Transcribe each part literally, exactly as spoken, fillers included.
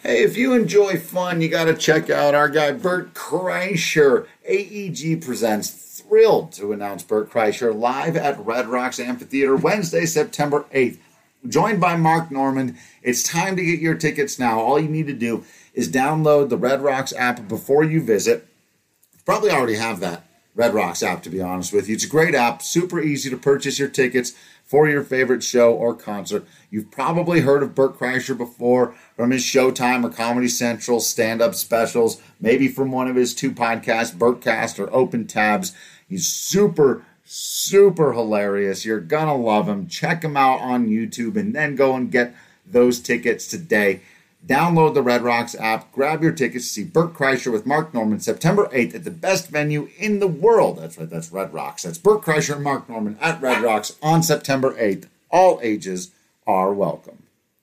Hey, if you enjoy fun, you got to check out our guy Bert Kreischer. A E G presents. Thrilled to announce Bert Kreischer live at Red Rocks Amphitheater Wednesday, September eighth. Joined by Mark Normand. It's time to get your tickets now. All you need to do is download the Red Rocks app before you visit. You probably already have that Red Rocks app, to be honest with you. It's a great app, super easy to purchase your tickets for your favorite show or concert. You've probably heard of Bert Kreischer before from his Showtime or Comedy Central stand-up specials, maybe from one of his two podcasts, Bertcast or Open Tabs. He's super, super hilarious. You're going to love him. Check him out on YouTube and then go and get those tickets today. Download the Red Rocks app. Grab your tickets to see Bert Kreischer with Mark Normand September eighth at the best venue in the world. That's right, that's Red Rocks. That's Bert Kreischer and Mark Normand at Red Rocks on September eighth. All ages are welcome.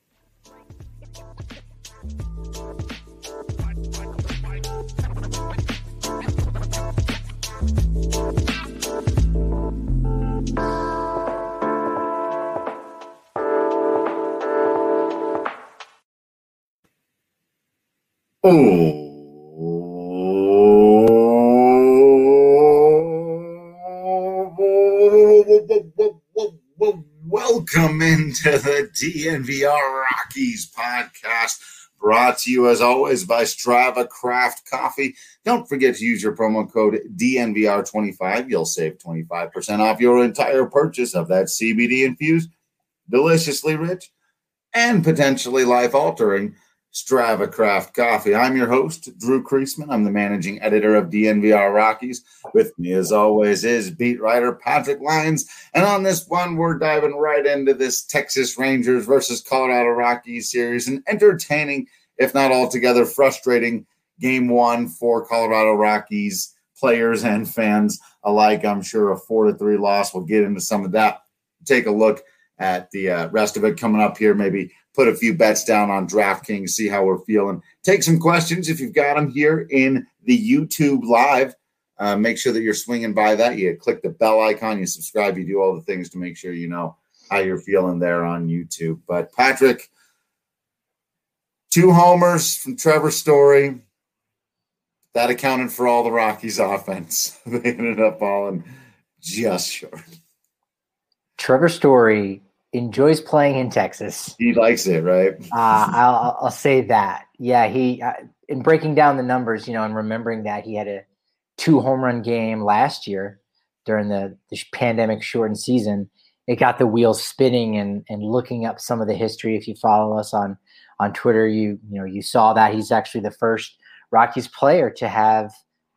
Oh, welcome into the D N V R Rockies podcast, brought to you as always by Strava Craft Coffee. Don't forget to use your promo code D N V R twenty-five. You'll save twenty-five percent off your entire purchase of that C B D infused, deliciously rich, and potentially life-altering Strava Craft Coffee. I'm your host, Drew Kreisman. I'm the managing editor of D N V R Rockies. With me, as always, is beat writer Patrick Lyons. And on this one, we're diving right into this Texas Rangers versus Colorado Rockies series, an entertaining, if not altogether frustrating, game one for Colorado Rockies players and fans alike. I'm sure a four to three loss. We'll get into some of that. Take a look at the uh, rest of it coming up here. Maybe put a few bets down on DraftKings, see how we're feeling. Take some questions if you've got them here in the YouTube Live. Uh, make sure that you're swinging by that. You click the bell icon, you subscribe, you do all the things to make sure you know how you're feeling there on YouTube. But Patrick, two homers from Trevor Story. That accounted for all the Rockies' offense. They ended up falling just short. Trevor Story enjoys playing in Texas. He likes it, right? uh, I'll, I'll say that. Yeah, he uh, in breaking down the numbers, you know, and remembering that he had a two home run game last year during the, the pandemic shortened season, it got the wheels spinning. And and looking up some of the history, if you follow us on on Twitter, you you know you saw that he's actually the first Rockies player to have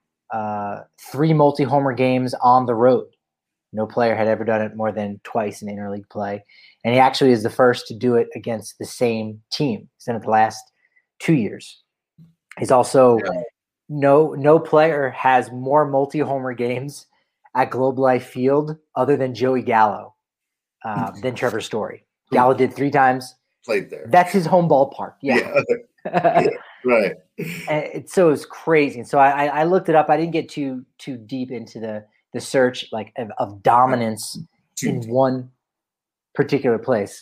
uh, three multi homer games on the road. No player had ever done it more than twice in interleague play. And he actually is the first to do it against the same team. He's done it the last two years. He's also yeah. no no player has more multi-homer games at Globe Life Field other than Joey Gallo uh, than Trevor Story. Gallo did three times. Played there. That's his home ballpark. Yeah. yeah. yeah. Right. And it, so it was crazy. And so I, I looked it up. I didn't get too too deep into the the search like of, of dominance too in deep. One particular place.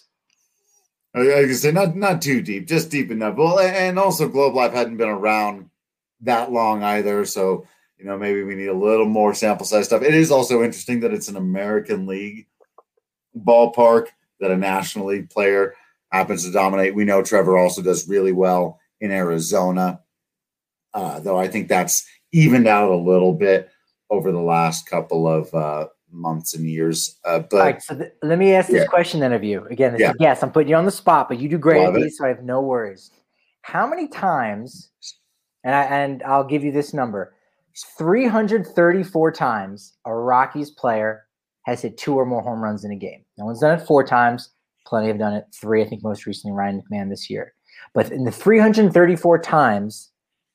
I can say not not too deep, just deep enough. Well, and also Globe Life hadn't been around that long either, so you know maybe we need a little more sample size stuff. It is also interesting that it's an American League ballpark that a National League player happens to dominate. We know Trevor also does really well in Arizona, uh, though I think that's evened out a little bit over the last couple of uh, months and years. Uh, but all right, so th- let me ask this yeah. question then of you. Again, this yeah. is, yes, I'm putting you on the spot, but you do great Love at these, it. So I have no worries. How many times, and, I, and I'll give you this number, three hundred thirty-four times a Rockies player has hit two or more home runs in a game. No one's done it four times. Plenty have done it three, I think most recently Ryan McMahon this year. But in the three hundred thirty-four times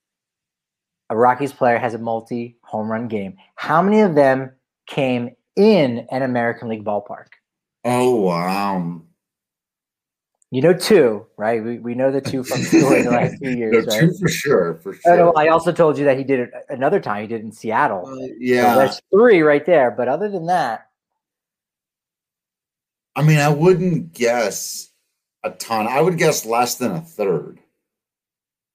a Rockies player has a multi-home run game, how many of them came in an American League ballpark? Oh, wow. You know two, right? We we know the two from Story the last two years, no, right? Two for sure, for sure. Oh, no, I also told you that he did it another time. He did it in Seattle. Uh, yeah. So that's three right there. But other than that. I mean, I wouldn't guess a ton. I would guess less than a third.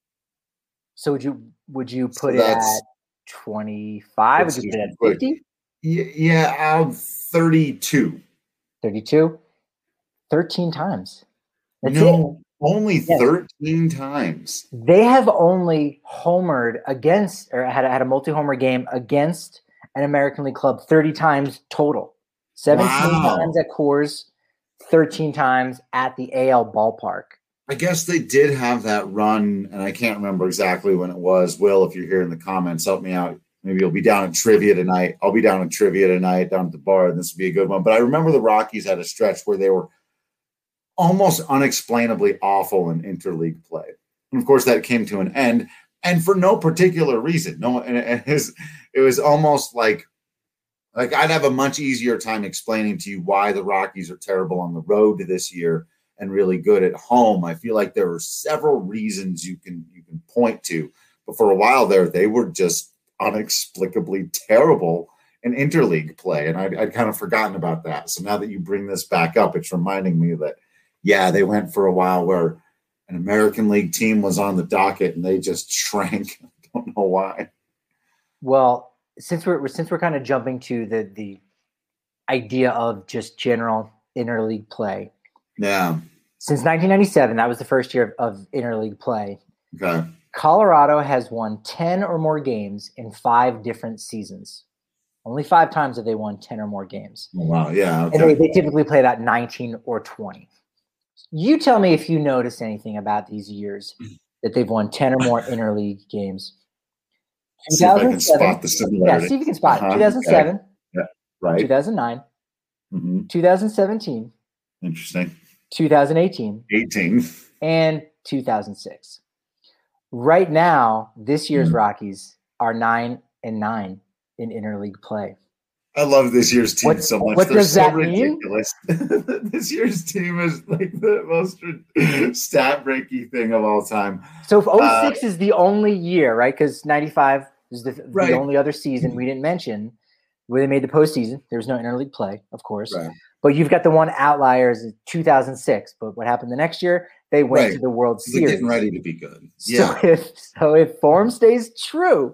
So would you would you So put it at that's twenty-five? Would let's you do put it some at quick. fifty? Y- Yeah, I'm thirty-two. thirty-two? thirteen times. That's it. No, only Yes. thirteen times. They have only homered against or had, a- had a multi-homer game against an American League club thirty times total. seventeen Wow. times at Coors, thirteen times at the A L ballpark. I guess they did have that run, and I can't remember exactly when it was. Will, if you're here in the comments, help me out. Maybe you'll be down at trivia tonight. I'll be down at trivia tonight, down at the bar, and this would be a good one. But I remember the Rockies had a stretch where they were almost unexplainably awful in interleague play. And of course, that came to an end, and for no particular reason. No, and it was, it was almost like, like I'd have a much easier time explaining to you why the Rockies are terrible on the road this year and really good at home. I feel like there are several reasons you can you can point to, but for a while there, they were just inexplicably terrible in interleague play, and I'd, I'd kind of forgotten about that. So now that you bring this back up, it's reminding me that, yeah, they went for a while where an American League team was on the docket and they just shrank. I don't know why. Well, since we're since we're kind of jumping to the the idea of just general interleague play. Yeah. Since nineteen ninety-seven, that was the first year of, of interleague play. Okay. Colorado has won ten or more games in five different seasons. Only five times have they won ten or more games. Oh, wow. Yeah. Okay. And they, they typically play that nineteen or twenty. You tell me if you notice anything about these years that they've won ten or more interleague games. See if I can spot the similarity. Yeah, see if you can spot Uh-huh. it. two thousand seven, Okay. Yeah. Right. two thousand nine, Mm-hmm. two thousand seventeen, Interesting. two thousand eighteen, eighteen. and two thousand six. Right now, this year's Mm. Rockies are nine and nine in interleague play. I love this year's team What- so much. what They're does so that mean? ridiculous. This year's team is like the most stat breaky thing of all time. So if Uh, oh six is the only year, right? Because ninety-five is the, Right. the only other season we didn't mention where they made the postseason. There was no interleague play, of course. Right. But you've got the one outlier is two thousand six. But what happened the next year? They went Right. to the World They're Series. getting ready to be good. So Yeah. if so if form stays true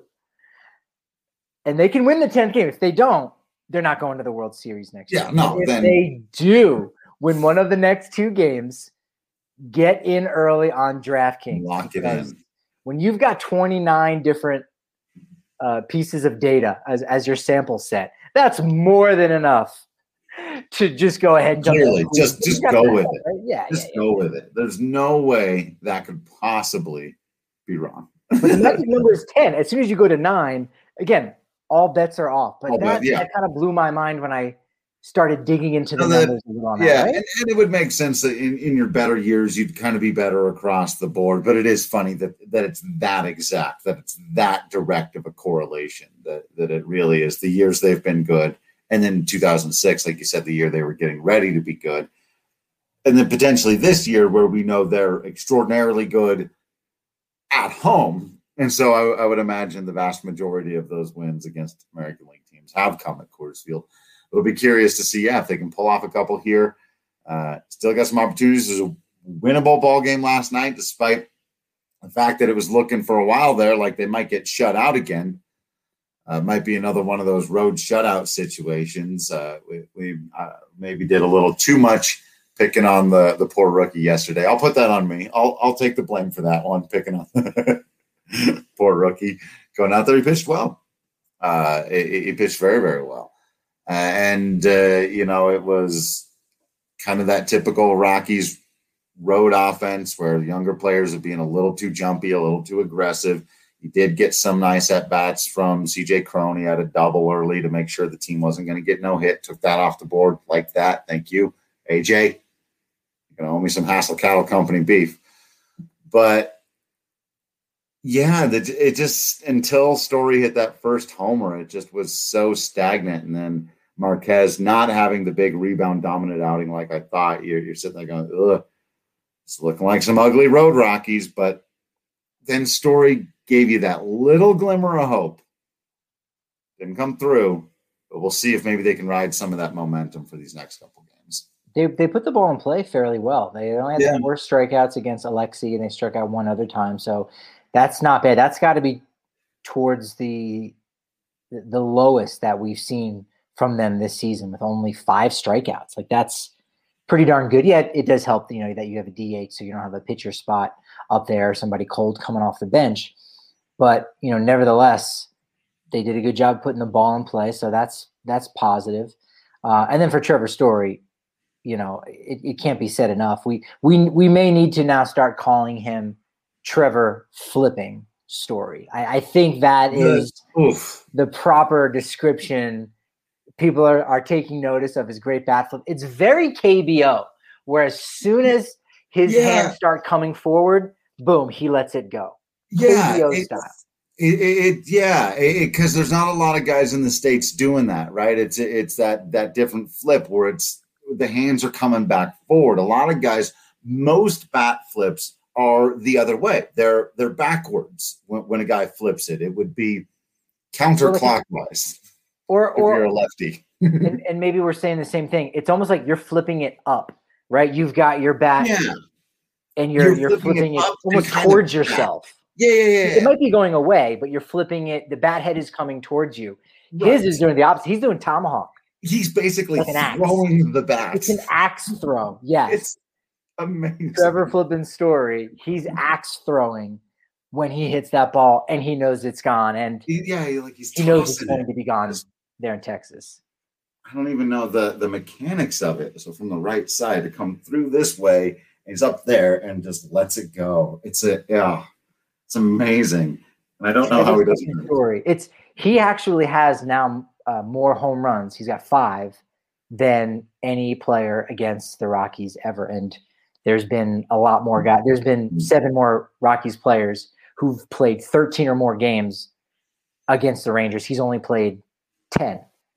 and they can win the tenth game, if they don't, they're not going to the World Series next Yeah, year. no, If then- they do win one of the next two games, get in early on DraftKings. Lock it because in. When you've got twenty-nine different uh, pieces of data as, as your sample set, that's more than enough to just go ahead and jump Clearly, in. just- You just got go that, with it. right? Yeah, Just yeah, go with it. There's no way that could possibly be wrong. But the magic number is ten. As soon as you go to nine, again, all bets are off. But All that, bet, yeah. that kind of blew my mind when I started digging into the No, that- numbers a little on that, Yeah, right? and, and it would make sense that in, in your better years you'd kind of be better across the board. But it is funny that that it's that exact, that it's that direct of a correlation, that that it really is. The years they've been good, and then two thousand six, like you said, the year they were getting ready to be good, and then potentially this year where we know they're extraordinarily good at home. And so I, I would imagine the vast majority of those wins against American League teams have come at Coors Field. We'll be curious to see, yeah, if they can pull off a couple here. Uh, still got some opportunities. There's a winnable ball game last night, despite the fact that it was looking for a while there like they might get shut out again. Uh, might be another one of those road shutout situations. Uh, we we uh, maybe did a little too much picking on the, the poor rookie yesterday. I'll put that on me. I'll I'll take the blame for that one, picking on the poor rookie. Going out there, he pitched well. Uh, he, he pitched very, very well. Uh, and, uh, you know, it was kind of that typical Rockies road offense where the younger players are being a little too jumpy, a little too aggressive. He did get some nice at-bats from C J Cron. He had a double early to make sure the team wasn't going to get no hit. Took that off the board like that. Thank you, A J. You're going to owe me some Hassel Cattle Company beef. But, yeah, the, it just – until Story hit that first homer, it just was so stagnant. And then Marquez not having the big rebound dominant outing like I thought. You're, you're sitting there going, ugh, it's looking like some ugly road Rockies. But then Story gave you that little glimmer of hope. Didn't come through, but we'll see if maybe they can ride some of that momentum for these next couple games. They they put the ball in play fairly well. They only had Yeah. four strikeouts against Alexi, and they struck out one other time. So that's not bad. That's got to be towards the the lowest that we've seen from them this season, with only five strikeouts. Like, that's pretty darn good. Yeah, it does help, you know, that you have a D H, so you don't have a pitcher spot up there, somebody cold coming off the bench. But, you know, nevertheless, they did a good job putting the ball in play, so that's that's positive. Uh, and then for Trevor Story, you know, it, it can't be said enough. We we we may need to now start calling him Trevor Flipping Story. I, I think that is Oof. the proper description. People are, are taking notice of his great bat flip. It's very K B O, where as soon as his Yeah. hands start coming forward, boom, he lets it go. Yeah, K B O it- style. It, it, it yeah, because there's not a lot of guys in the States doing that, right? It's it's that that different flip where it's the hands are coming back forward. A lot of guys, most bat flips are the other way. They're they're backwards when, when a guy flips it. It would be counterclockwise Or if you're or a lefty. and, and maybe we're saying the same thing. It's almost like you're flipping it up, right? You've got your bat Yeah, and you're You're you're flipping flipping it it, up and almost kind of towards back. yourself. yeah, yeah, yeah. It might be going away, but you're flipping it. The bat head is coming towards you. Right. His is doing the opposite. He's doing tomahawk. He's basically Like an axe. throwing the bat. It's an axe throw. Yes. It's amazing. Trevor Flippin Story. He's axe throwing when he hits that ball, and he knows it's gone, and He- yeah, he- like he's he knows it's tossing going it. to be gone there in Texas. I don't even know the the mechanics of it. So from the right side to come through this way, he's up there and just lets it go. It's a yeah, it's amazing. And I don't know how he does it. Story. It's he actually has now uh, more home runs. He's got five than any player against the Rockies ever. And there's been a lot more guys. There's been seven more Rockies players who've played thirteen or more games against the Rangers. He's only played ten.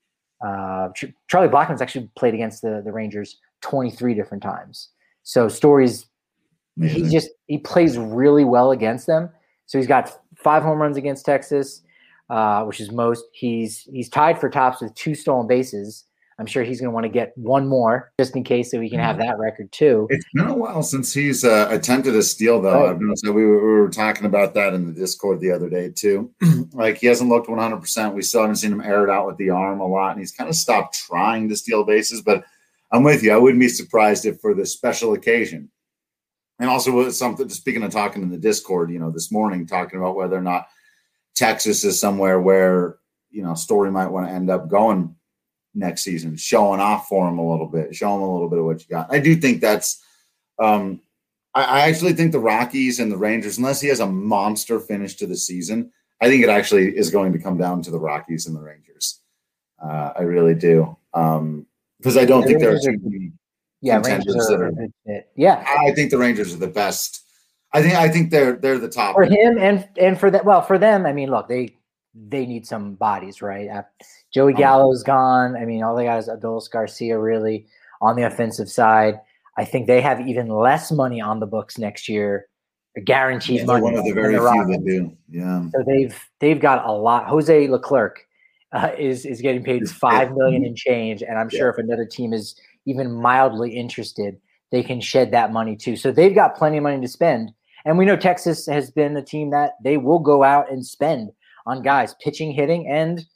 Uh, Ch- Charlie Blackmon's actually played against the, the Rangers twenty-three different times. So Story's he Amazing. just he plays really well against them. So he's got five home runs against Texas, uh, which is most. He's he's tied for tops with two stolen bases. I'm sure he's going to want to get one more just in case, so he can have that record too. It's been a while since he's uh, attempted a steal, though. Right. I've noticed that we were, we were talking about that in the Discord the other day too. Like he hasn't looked one hundred percent. We still haven't seen him air it out with the arm a lot, and he's kind of stopped trying to steal bases. But I'm with you. I wouldn't be surprised if for this special occasion, and also with something. Speaking of talking in the Discord, you know, this morning talking about whether or not Texas is somewhere where you know Story might want to end up going next season, showing off for him a little bit, show him a little bit of what you got. I do think that's um I, I actually think the Rockies and the Rangers, unless he has a monster finish to the season, I think it actually is going to come down to the Rockies and the Rangers. Uh, I really do. Um because I don't The think there are Rangers too are- many Yeah, contenders Rangers that are are- a good fit. Yeah, I think the Rangers are the best. I think I think they're they're the top. for him and and for that. Well, for them, I mean, look, they they need some bodies, right? Uh, Joey Gallo's gone. I mean, all they got is Adolis Garcia really on the offensive side. I think they have even less money on the books next year, guaranteed Yeah, they're money. one of the than very few Rockies. that do. Yeah. So they've they've got a lot. Jose Leclerc uh, is is getting paid five million and change, and I'm sure if another team is even mildly interested, they can shed that money too. So they've got plenty of money to spend, and we know Texas has been a team that they will go out and spend on guys pitching, hitting, and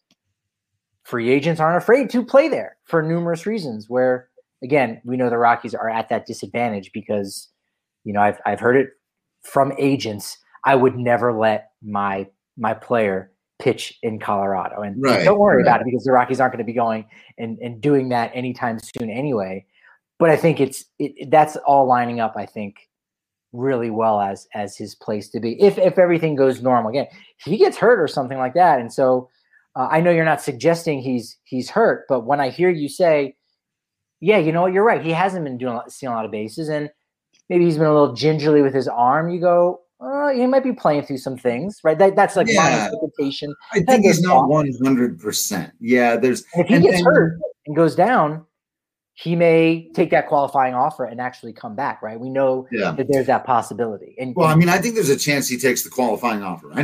free agents aren't afraid to play there for numerous reasons. Where again, we know the Rockies are at that disadvantage because you know I've I've heard it from agents. I would never let my my player pitch in Colorado. And Right, don't worry right. about it because the Rockies aren't going to be going and, and doing that anytime soon anyway. But I think it's it, that's all lining up, I think, really well as as his place to be. If if everything goes normal. Again, if he gets hurt or something like that. And so uh, I know you're not suggesting he's he's hurt, but when I hear you say, yeah, you know what, you're right. He hasn't been doing a lot, stealing a lot of bases, and maybe he's been a little gingerly with his arm. You go, uh, he might be playing through some things, right? That, that's like my Yeah. interpretation. I think he's not one hundred percent. Yeah, there's And if he and- gets and- hurt and goes down, he may take that qualifying offer and actually come back, right? We know Yeah. that there's that possibility. And, Well, I and mean, I think there's a chance he takes the qualifying offer anyway.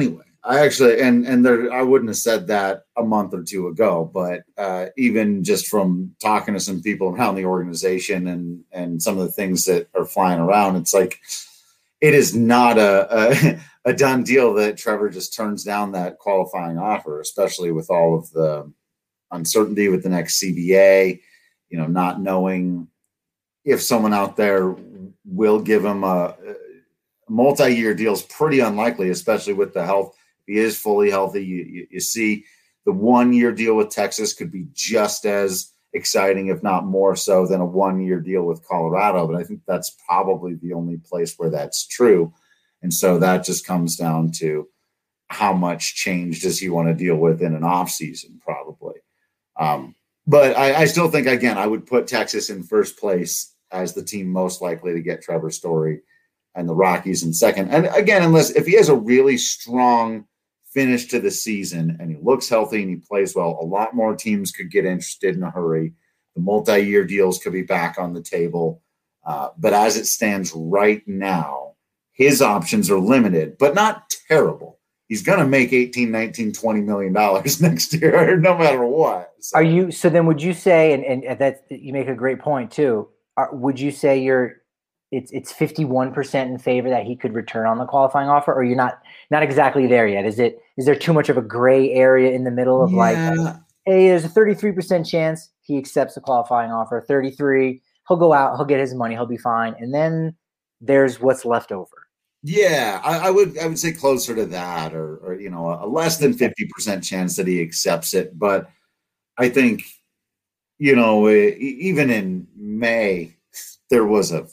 I actually, and and there, I wouldn't have said that a month or two ago, but uh, even just from talking to some people around the organization and and some of the things that are flying around, it's like it is not a a, a done deal that Trevor just turns down that qualifying offer, especially with all of the uncertainty with the next C B A, you know, not knowing if someone out there will give him a, a multi-year deal is pretty unlikely, especially with the health. If he is fully healthy, you, you, you see the one-year deal with Texas could be just as exciting, if not more so, than a one-year deal with Colorado. But I think that's probably the only place where that's true. And so that just comes down to how much change does he want to deal with in an offseason, probably. Um, but I, I still think, again, I would put Texas in first place as the team most likely to get Trevor Story, and the Rockies in second. And again, unless if he has a really strong finish to the season and he looks healthy and he plays well, a lot more teams could get interested in a hurry. The multi-year deals could be back on the table. Uh, but as it stands right now, his options are limited, but not terrible. He's going to make eighteen, nineteen, twenty million dollars next year, no matter what. So. Are you, so then would you say, and, and that you make a great point too, are, would you say you're, it's it's fifty-one percent in favor that he could return on the qualifying offer, or you're not not exactly there yet? Is it is there too much of a gray area in the middle of yeah. like, hey, there's a thirty-three percent chance he accepts the qualifying offer, thirty-three, he'll go out, he'll get his money, he'll be fine, and then there's what's left over. Yeah, I, I would I would say closer to that, or or you know, a less than fifty percent chance that he accepts it. But I think, you know, even in May, there was a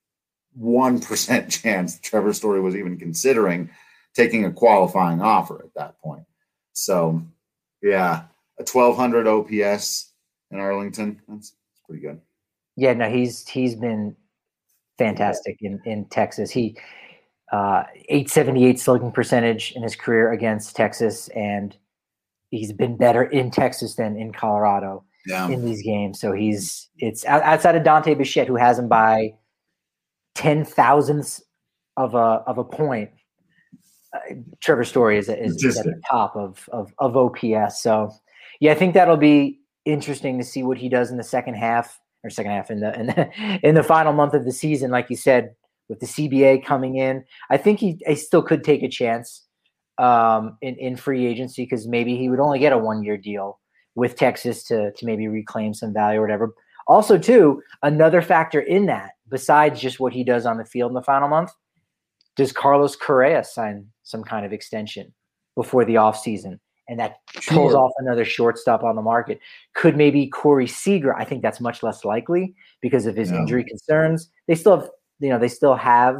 one percent chance Trevor Story was even considering taking a qualifying offer at that point. So, yeah, a twelve hundred O P S in Arlington, that's, that's pretty good. Yeah, no, he's he's been fantastic in, in Texas. He uh, eight seventy-eight slugging percentage in his career against Texas, and he's been better in Texas than in Colorado yeah. in these games. So he's it's outside of Dante Bichette, who has him by ten thousandths of a of a point. Uh, Trevor Story is, is, is at the top of, of of O P S. So, yeah, I think that'll be interesting to see what he does in the second half or second half in the in the, in the final month of the season. Like you said, with the C B A coming in, I think he, he still could take a chance um, in in free agency, because maybe he would only get a one year deal with Texas to to maybe reclaim some value or whatever. Also, too, another factor in that, besides just what he does on the field in the final month, does Carlos Correa sign some kind of extension before the offseason? And that sure. pulls off another shortstop on the market. Could maybe Corey Seager? I think that's much less likely because of his yeah. injury concerns. They still have, you know, they still have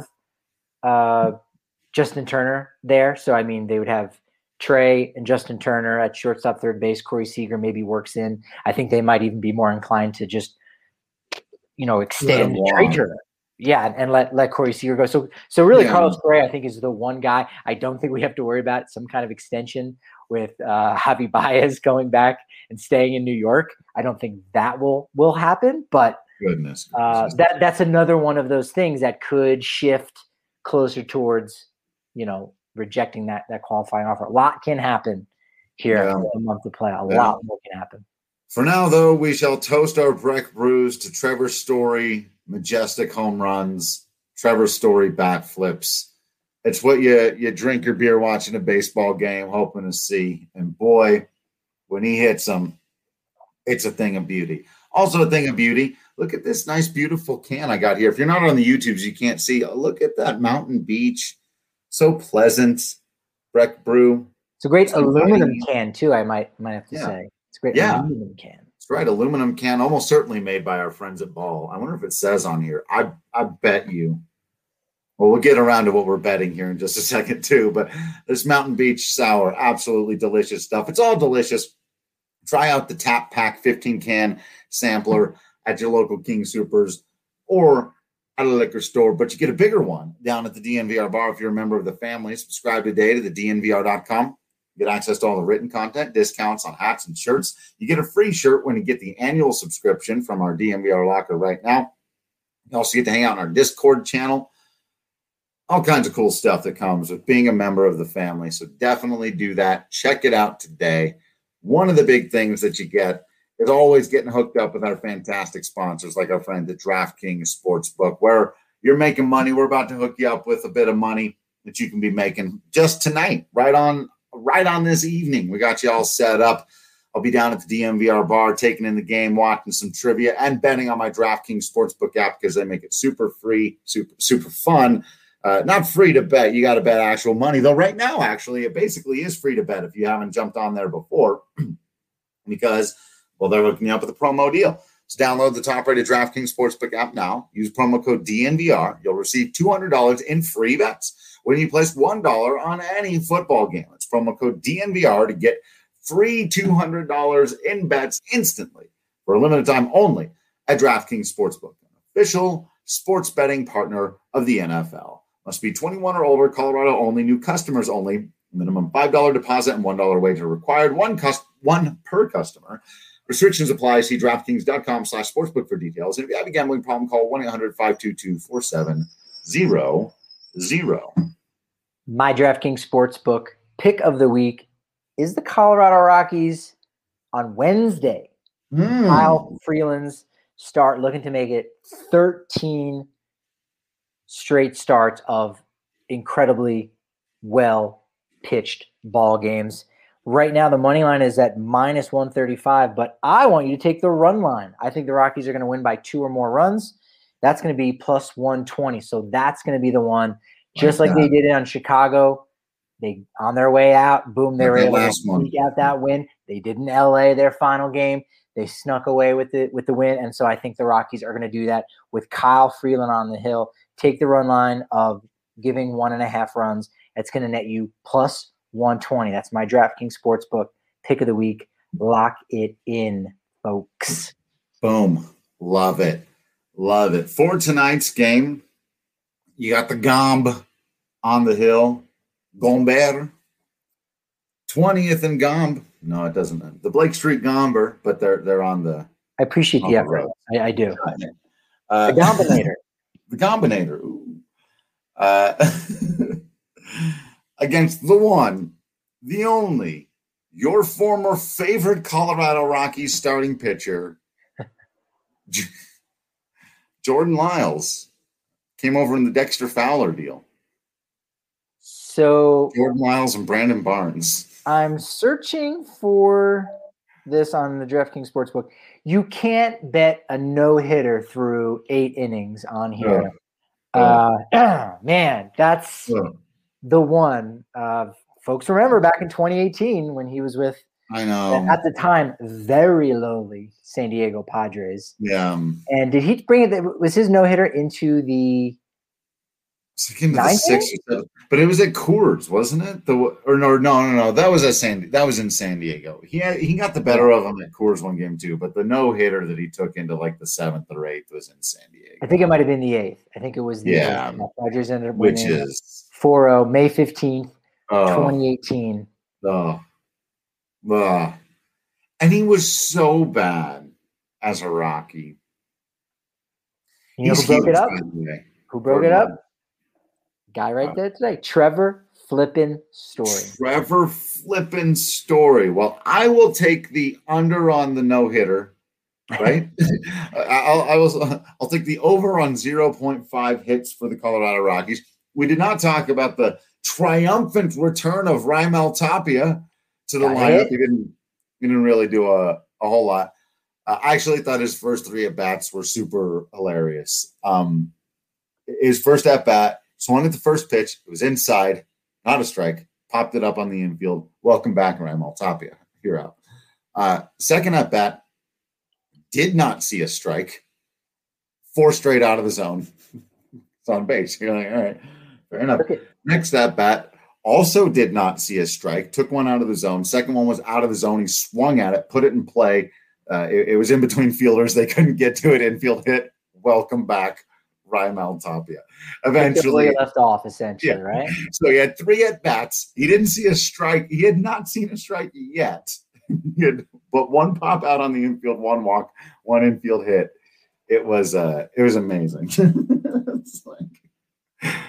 uh, Justin Turner there. So, I mean, they would have Trey and Justin Turner at shortstop, third base. Corey Seager maybe works in. I think they might even be more inclined to just, you know, extend Trey Turner. Yeah, and let let Corey Seager go. So so really, yeah. Carlos Correa, I think, is the one guy I don't think we have to worry about some kind of extension with uh, Javi Baez going back and staying in New York. I don't think that will will happen. But goodness, uh, that that's another one of those things that could shift closer towards, you know, rejecting that that qualifying offer. A lot can happen here yeah. in a month of play. A yeah. lot more can happen. For now, though, we shall toast our Breck brews to Trevor Story, majestic home runs, Trevor Story bat flips. It's what you you drink your beer watching a baseball game, hoping to see. And boy, when he hits them, it's a thing of beauty. Also a thing of beauty, look at this nice, beautiful can I got here. If you're not on the YouTubes, you can't see. Oh, look at that Mountain Beach. So pleasant. Breck brew. It's a great it's aluminum funny. can, too, I might, might have to yeah. say. It's a great yeah. aluminum can. That's right, aluminum can, almost certainly made by our friends at Ball. I wonder if it says on here. I I bet you. Well, we'll get around to what we're betting here in just a second too. But this Mountain Beach Sour, absolutely delicious stuff. It's all delicious. Try out the Tap Pack fifteen can sampler at your local King Soopers or at a liquor store. But you get a bigger one down at the D N V R bar if you're a member of the family. Subscribe today to the D N V R dot com. Get access to all the written content, discounts on hats and shirts. You get a free shirt when you get the annual subscription from our D N V R locker right now. You also get to hang out in our Discord channel. all kinds of cool stuff that comes with being a member of the family. So definitely do that. Check it out today. One of the big things that you get is always getting hooked up with our fantastic sponsors, like our friend at DraftKings Sportsbook, where you're making money. We're about to hook you up with a bit of money that you can be making just tonight, right on, right on this evening. We got you all set up. I'll be down at the D N V R bar, taking in the game, watching some trivia, and betting on my DraftKings Sportsbook app because they make it super free, super super fun. Uh, not free to bet. You got to bet actual money, though. Right now, actually, it basically is free to bet if you haven't jumped on there before, because well, they're hooking you up with a promo deal. So download the top-rated DraftKings Sportsbook app now. Use promo code D N V R. You'll receive two hundred dollars in free bets when you place one dollar on any football game. It's promo code D N V R to get free two hundred dollars in bets instantly for a limited time only at DraftKings Sportsbook, an official sports betting partner of the N F L. Must be twenty-one or older, Colorado only, new customers only, minimum five dollars deposit and one dollar wager required, one, cus- one per customer. Restrictions apply. See DraftKings.com slash sportsbook for details. And if you have a gambling problem, call one eight hundred five two two four seven zero zero. My DraftKings Sportsbook pick of the week is the Colorado Rockies on Wednesday. Mm. Kyle Freeland's start, looking to make it thirteen straight starts of incredibly well pitched ball games. Right now, the money line is at minus one thirty-five, but I want you to take the run line. I think the Rockies are going to win by two or more runs. That's going to be plus one twenty. So that's going to be the one, just like, like they did it on Chicago. They on their way out, boom, they like were able to sneak out that win. They did in L A their final game. They snuck away with the with the win, and so I think the Rockies are going to do that with Kyle Freeland on the hill. Take the run line of giving one and a half runs. It's going to net you plus one twenty. That's my DraftKings Sportsbook pick of the week. Lock it in, folks. Boom. Love it. Love it. For tonight's game, you got the Gomb on the hill. Gomber. twentieth and Gomb. No, it doesn't. The Blake Street Gomber, but they're they're on the. I appreciate the effort. I, I do. Uh, the Gombinator. The Gombinator. Ooh. Uh, against the one, the only, your former favorite Colorado Rockies starting pitcher, Jordan Lyles, came over in the Dexter Fowler deal. So Jordan Lyles and Brandon Barnes. I'm searching for this on the DraftKings Sportsbook. You can't bet a no-hitter through eight innings on here. Uh, uh, man, that's uh, the one. Uh, folks remember back in twenty eighteen when he was with, I know, at the time, very lowly San Diego Padres. Yeah. And did he bring it? Was his no-hitter into the into the six or seven, but it was at Coors, wasn't it? The or no, no, no, no. That was at San. That was in San Diego. He had, he got the better of him at Coors one game too. But the no hitter that he took into like the seventh or eighth was in San Diego. I think it might have been the eighth. I think it was the yeah. eighth. Padres ended up which winning is four oh May fifteenth, oh, twenty eighteen. Oh, oh, and he was so bad as a Rocky. You know who broke it up? Who broke it up? Guy right there today, Trevor Flippin Story. Trevor Flippin Story. Well, I will take the under on the no hitter, right? I'll I will I'll take the over on zero point five hits for the Colorado Rockies. We did not talk about the triumphant return of Raimel Tapia to the Got lineup. It. He didn't he didn't really do a, a whole lot. Uh, I actually thought his first three at bats were super hilarious. Um, his first at bat. Swung at the first pitch. It was inside, not a strike. Popped it up on the infield. Welcome back, Raimel Tapia. You're out. Uh, second at bat, did not see a strike. Four straight out of the zone. It's on base. You're like, all right, fair enough. Okay. Next at bat, also did not see a strike. Took one out of the zone. Second one was out of the zone. He swung at it, put it in play. Uh, it, it was in between fielders. They couldn't get to it. Infield hit. Welcome back, Raimel Tapia. Eventually left off, essentially, yeah. Right? So he had three at bats. He didn't see a strike. He had not seen a strike yet. He had, but one pop out on the infield, one walk, one infield hit. It was uh, it was amazing. It's like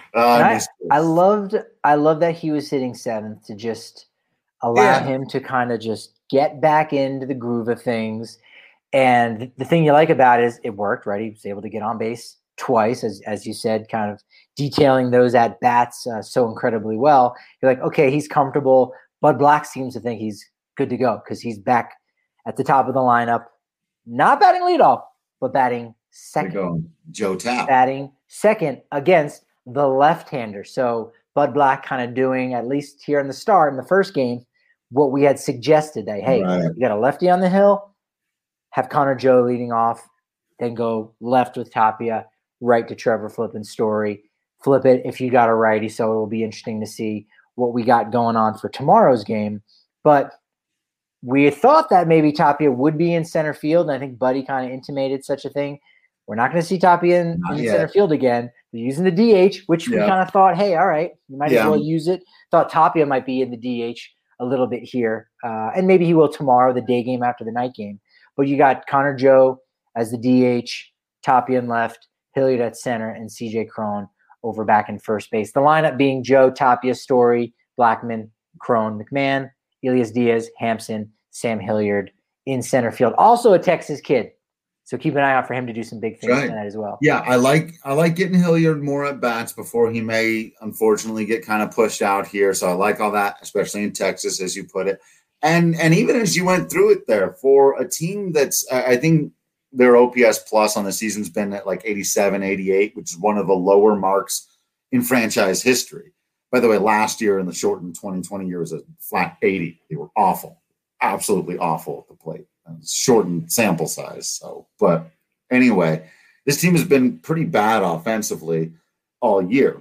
Uh, I, I loved I love that he was hitting seventh to just allow yeah. him to kind of just get back into the groove of things. And the thing you like about it is it worked, right? He was able to get on base twice, as as you said, kind of detailing those at bats uh, so incredibly well. You're like, okay, he's comfortable. Bud Black seems to think he's good to go because he's back at the top of the lineup, not batting leadoff, but batting second. Joe Tapp. Batting second against the left-hander. So Bud Black kind of doing, at least here in the start, in the first game, what we had suggested that, hey, right. you got a lefty on the hill, have Connor Joe leading off, then go left with Tapia, right to Trevor Flippin Story. Flip it if you got a righty. So it will be interesting to see what we got going on for tomorrow's game. But we thought that maybe Tapia would be in center field, and I think Buddy kind of intimated such a thing. We're not going to see Tapia in, in center field again. They're using the D H, which yeah. we kind of thought, hey, all right, you might yeah. as well use it. Thought Tapia might be in the D H a little bit here, uh, and maybe he will tomorrow, the day game after the night game. But you got Connor Joe as the D H, Tapia in left, Hilliard at center, and C J Cron over back in first base. The lineup being Joe, Tapia, Story, Blackmon, Cron, McMahon, Elias Diaz, Hampson, Sam Hilliard in center field. Also a Texas kid. So keep an eye out for him to do some big things right. tonight as well. Yeah, I like I like getting Hilliard more at bats before he may unfortunately get kind of pushed out here. So I like all that, especially in Texas, as you put it. And and even as you went through it there, for a team that's I think their O P S plus on the season's been at like eighty-seven, eighty-eight, which is one of the lower marks in franchise history. By the way, last year in the shortened twenty twenty year was a flat eighty. They were awful, absolutely awful at the plate. Shortened sample size. So, but anyway, this team has been pretty bad offensively all year.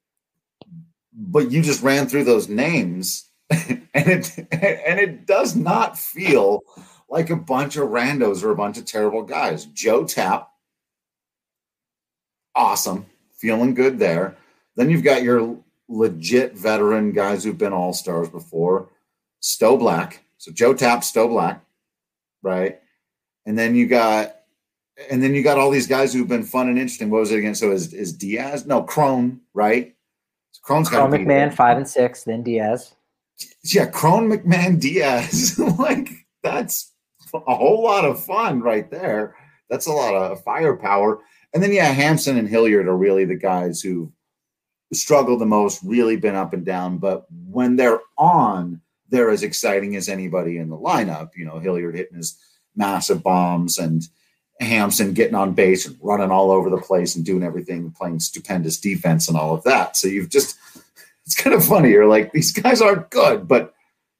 But you just ran through those names, and it and it does not feel like a bunch of randos or a bunch of terrible guys. Joe Tapp, awesome, feeling good there. Then you've got your legit veteran guys who've been all-stars before. Stowe Black. So Joe Tapp, Stowe Black. Right. And then you got and then you got all these guys who've been fun and interesting. What was it again? So is, is Diaz? No, Cron, right? So Cron's Cron McMahon, there. five and six, then Diaz. Yeah, Cron, McMahon, Diaz. Like, that's a whole lot of fun right there. That's a lot of firepower. And then, yeah, Hampson and Hilliard are really the guys who struggled the most, really been up and down. But when they're on, they're as exciting as anybody in the lineup. You know, Hilliard hitting his massive bombs and Hampson getting on base and running all over the place and doing everything, playing stupendous defense and all of that. So you've just, it's kind of funny. You're like, these guys aren't good, but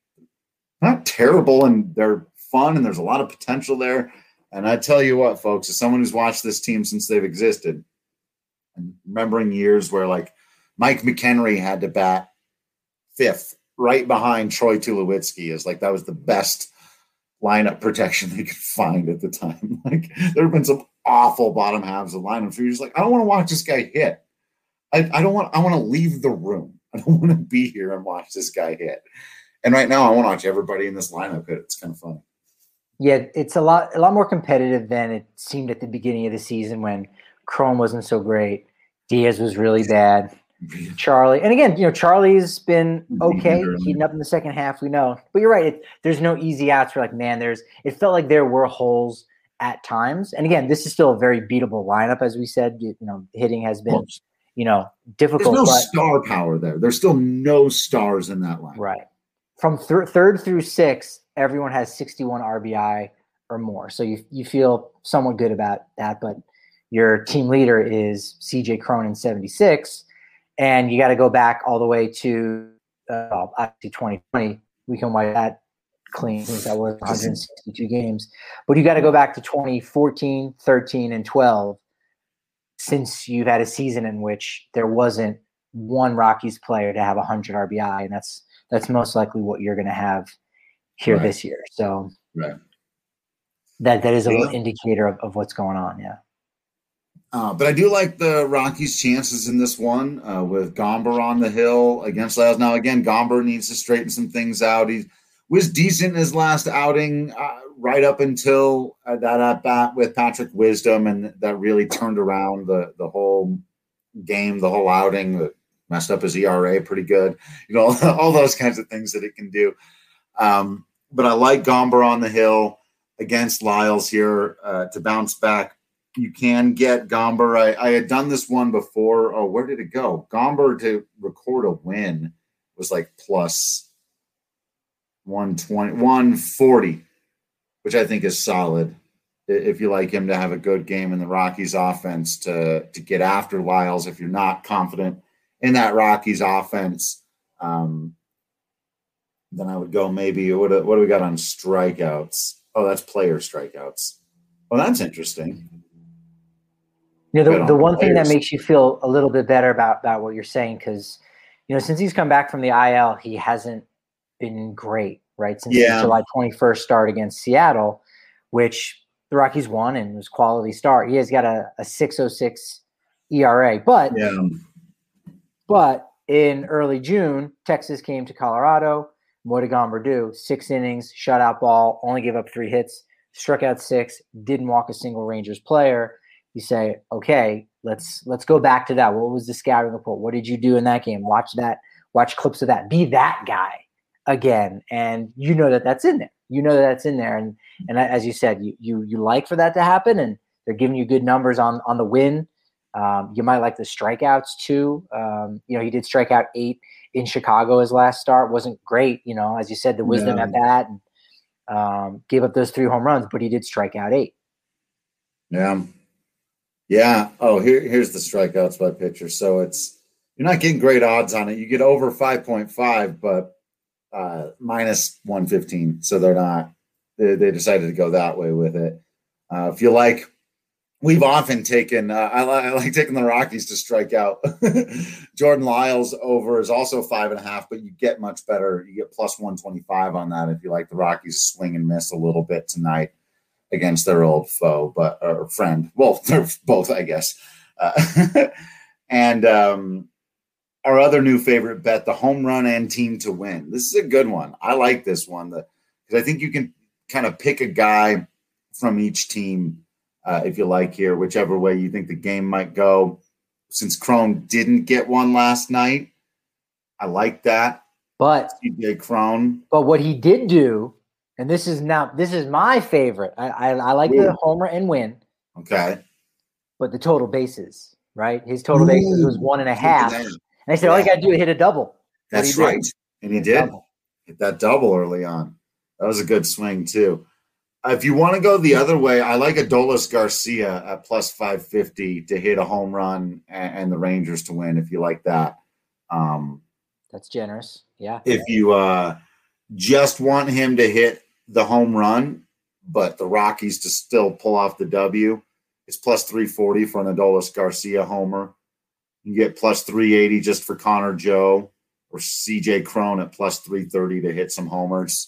not terrible, and they're fun, and there's a lot of potential there. And I tell you what, folks, as someone who's watched this team since they've existed, and remembering years where like Mike McHenry had to bat fifth, right behind Troy Tulowitzki, is like that was the best lineup protection they could find at the time. Like there have been some awful bottom halves of lineups where you're just like, I don't want to watch this guy hit. I, I don't want. I want to leave the room. I don't want to be here and watch this guy hit. And right now, I want to watch everybody in this lineup hit. It's kind of fun. Yeah, it's a lot, a lot more competitive than it seemed at the beginning of the season when Cron wasn't so great. Diaz was really bad. Charlie, and again, you know, Charlie's been okay, heating up in the second half. We know, but you're right. It, there's no easy outs. For like, man, there's. It felt like there were holes at times. And again, this is still a very beatable lineup, as we said. You know, hitting has been, you know, difficult. There's no but, star power there. There's still no stars in that lineup. Right. From th- third through sixth, everyone has sixty-one R B I or more. So you you feel somewhat good about that. But your team leader is C J Cron, seventy-six. And you got to go back all the way to uh, actually twenty twenty. We can wipe that clean since that was one hundred sixty-two games. But you got to go back to twenty fourteen, thirteen, and twelve since you've had a season in which there wasn't one Rockies player to have one hundred R B I, and that's that's most likely what you're going to have here right. this year. So right. that that is a yeah. little indicator of, of what's going on. Yeah. Uh, but I do like the Rockies' chances in this one uh, with Gomber on the hill against Lyles. Now, again, Gomber needs to straighten some things out. He was decent in his last outing uh, right up until uh, that at bat with Patrick Wisdom, and that really turned around the, the whole game, the whole outing, that messed up his E R A pretty good. You know, all those kinds of things that it can do. Um, but I like Gomber on the hill against Lyles here uh, to bounce back. You can get Gomber. I, I had done this one before. Oh, where did it go? Gomber to record a win was like plus one twenty, one forty, which I think is solid. If you like him to have a good game in the Rockies offense to, to get after Lyles, if you're not confident in that Rockies offense, um, then I would go maybe, what, what do we got on strikeouts? Oh, that's player strikeouts. Well, that's interesting. You know, the, the one thing that makes you feel a little bit better about, about what you're saying, because, you know, since he's come back from the I L, he hasn't been great, right? Since yeah. his July twenty-first start against Seattle, which the Rockies won and was quality start. He has got a, a six oh six E R A. But, yeah. but in early June, Texas came to Colorado. What did Gomber do? Six innings, shutout ball, only gave up three hits, struck out six, didn't walk a single Rangers player. You say, okay, let's let's go back to that. What was the scouting report? What did you do in that game? Watch that. Watch clips of that. Be that guy again, and you know that that's in there. You know that that's in there, and and as you said, you you you like for that to happen, and they're giving you good numbers on on the win. Um, you might like the strikeouts too. Um, you know, he did strike out eight in Chicago. His last start wasn't great. You know, as you said, the wisdom yeah. at bat, and um, gave up those three home runs, but he did strike out eight. Yeah. Yeah. Oh, here, here's the strikeouts by pitcher. So it's, you're not getting great odds on it. You get over five point five, but uh, minus one fifteen. So they're not, they, they decided to go that way with it. Uh, if you like, we've often taken, uh, I, li- I like taking the Rockies to strike out. Jordan Lyles over is also five and a half, but you get much better. You get plus one twenty-five on that if you like the Rockies swing and miss a little bit tonight against their old foe, but or friend. Well, they're both, I guess. Uh, and um, our other new favorite bet, the home run and team to win. This is a good one. I like this one because I think you can kind of pick a guy from each team uh, if you like here, whichever way you think the game might go. Since Cron didn't get one last night, I like that. But C J Cron. But what he did do, and this is now this is my favorite. I I, I like Ooh. the homer and win. Okay. But the total bases, right? His total Ooh. bases was one and a half. And I said, yeah. all you got to do is hit a double. That's right. And he did. Double. Hit that double early on. That was a good swing, too. Uh, if you want to go the other way, I like Adolis Garcia at plus five fifty to hit a home run and, and the Rangers to win, if you like that. Um, That's generous. Yeah. If you uh, just want him to hit the home run, but the Rockies to still pull off the W, it's plus three forty for an Adolis Garcia homer. You get plus three eighty just for Connor Joe or C J Cron at plus three thirty to hit some homers.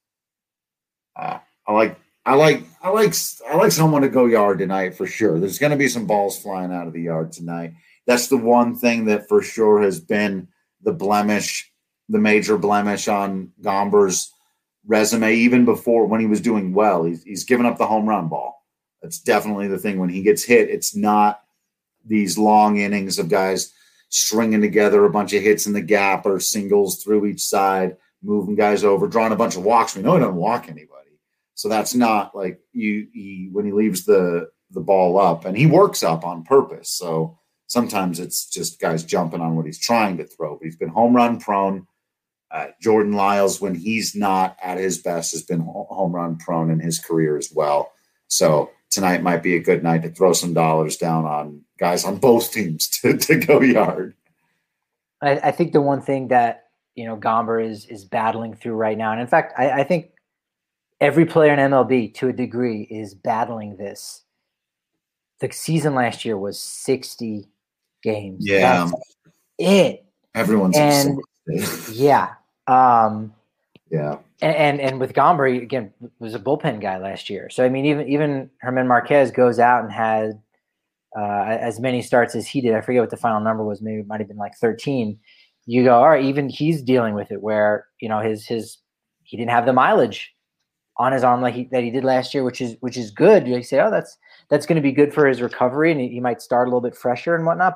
Uh, I like, I like, I like, I like someone to go yard tonight for sure. There's going to be some balls flying out of the yard tonight. That's the one thing that for sure has been the blemish, the major blemish on Gomber's resume, even before when he was doing well. He's, he's given up the home run ball. That's definitely the thing. When he gets hit, it's not these long innings of guys stringing together a bunch of hits in the gap or singles through each side, moving guys over, drawing a bunch of walks. We know he doesn't walk anybody. So that's not like you he, when he leaves the, the ball up, and he works up on purpose. So sometimes it's just guys jumping on what he's trying to throw. But he's been home run prone. Uh, Jordan Lyles, when he's not at his best, has been home run prone in his career as well. So tonight might be a good night to throw some dollars down on guys on both teams to, to go yard. I, I think the one thing that, you know, Gomber is is battling through right now, and in fact, I, I think every player in M L B to a degree is battling this. The season last year was sixty games. Yeah. That's it. Everyone's and yeah. Um, yeah. And, and and with Gomber, again, was a bullpen guy last year. So I mean, even even Herman Marquez goes out and had uh, as many starts as he did. I forget what the final number was. Maybe it might have been like thirteen. You go, all right. Even he's dealing with it, where you know his his he didn't have the mileage on his arm like he, that he did last year, which is which is good. You say, oh, that's that's going to be good for his recovery, and he, he might start a little bit fresher and whatnot. But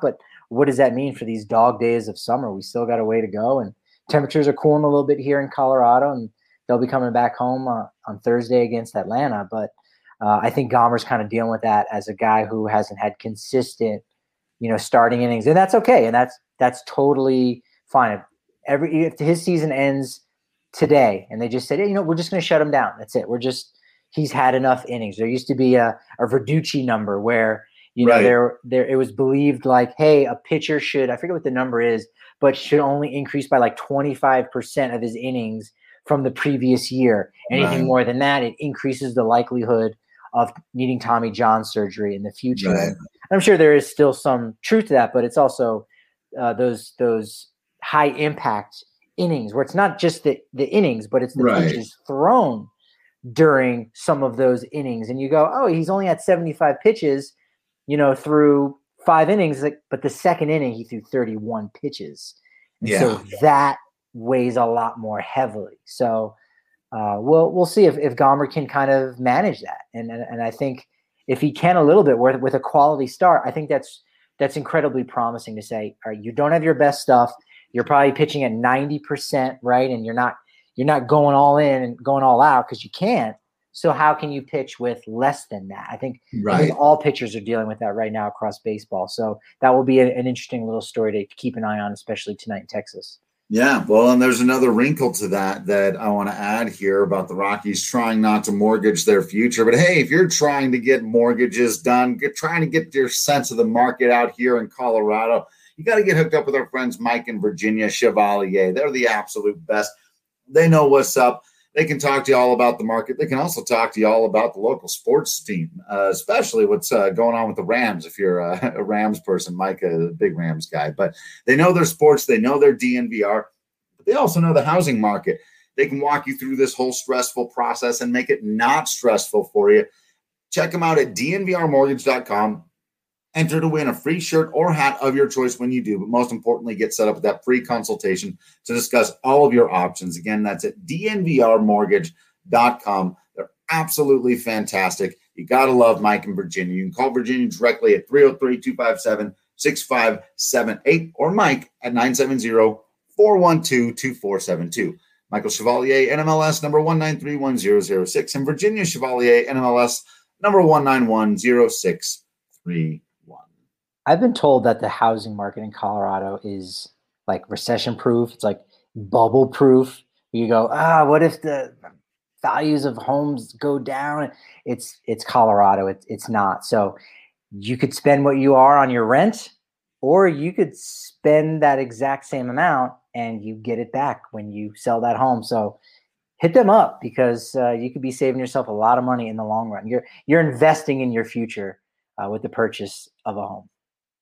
what does that mean for these dog days of summer? We still got a way to go, and temperatures are cooling a little bit here in Colorado, and they'll be coming back home uh, on Thursday against Atlanta. But uh, I think Gomer's kind of dealing with that as a guy who hasn't had consistent, you know, starting innings, and that's okay, and that's that's totally fine. If every if his season ends today, and they just said, hey, you know, we're just going to shut him down. That's it. We're just he's had enough innings. There used to be a, a Verducci number where you know Right. there there it was believed like, hey, a pitcher should I forget what the number is, but should only increase by like twenty-five percent of his innings from the previous year. Anything Right. more than that, it increases the likelihood of needing Tommy John surgery in the future. Right. And I'm sure there is still some truth to that, but it's also uh, those those high impact innings where it's not just the, the innings, but it's the Right. pitches thrown during some of those innings. And you go, oh, he's only had seventy-five pitches, you know, through five innings, like, but the second inning he threw thirty-one pitches. And Yeah. so that weighs a lot more heavily. So uh, we'll we'll see if, if Gomer can kind of manage that. And, and and I think if he can a little bit with, with a quality start, I think that's that's incredibly promising to say, all right, you don't have your best stuff. You're probably pitching at ninety percent, right? And you're not you're not going all in and going all out because you can't. So how can you pitch with less than that? I think, Right. I think all pitchers are dealing with that right now across baseball. So that will be a, an interesting little story to keep an eye on, especially tonight in Texas. Yeah, well, and there's another wrinkle to that that I want to add here about the Rockies trying not to mortgage their future. But hey, if you're trying to get mortgages done, get, trying to get your sense of the market out here in Colorado, you got to get hooked up with our friends Mike and Virginia Chevalier. They're the absolute best. They know what's up. They can talk to you all about the market. They can also talk to you all about the local sports team, uh, especially what's uh, going on with the Rams. If you're a, a Rams person, Mike, a big Rams guy, but they know their sports. They know their D N V R, but they also know the housing market. They can walk you through this whole stressful process and make it not stressful for you. Check them out at D N V R mortgage dot com. Enter to win a free shirt or hat of your choice when you do, but most importantly, get set up with that free consultation to discuss all of your options. Again, that's at D N V R mortgage dot com. They're absolutely fantastic. You got to love Mike and Virginia. You can call Virginia directly at three oh three, two five seven, six five seven eight or Mike at nine seven zero, four one two, two four seven two. Michael Chevalier, N M L S number one nine three one zero zero six, and Virginia Chevalier, N M L S number one nine one zero six three. I've been told that the housing market in Colorado is like recession proof. It's like bubble proof. You go, ah, what if the values of homes go down? It's it's Colorado. It's it's not. So you could spend what you are on your rent, or you could spend that exact same amount and you get it back when you sell that home. So hit them up because uh, you could be saving yourself a lot of money in the long run. You're you're investing in your future uh, with the purchase of a home.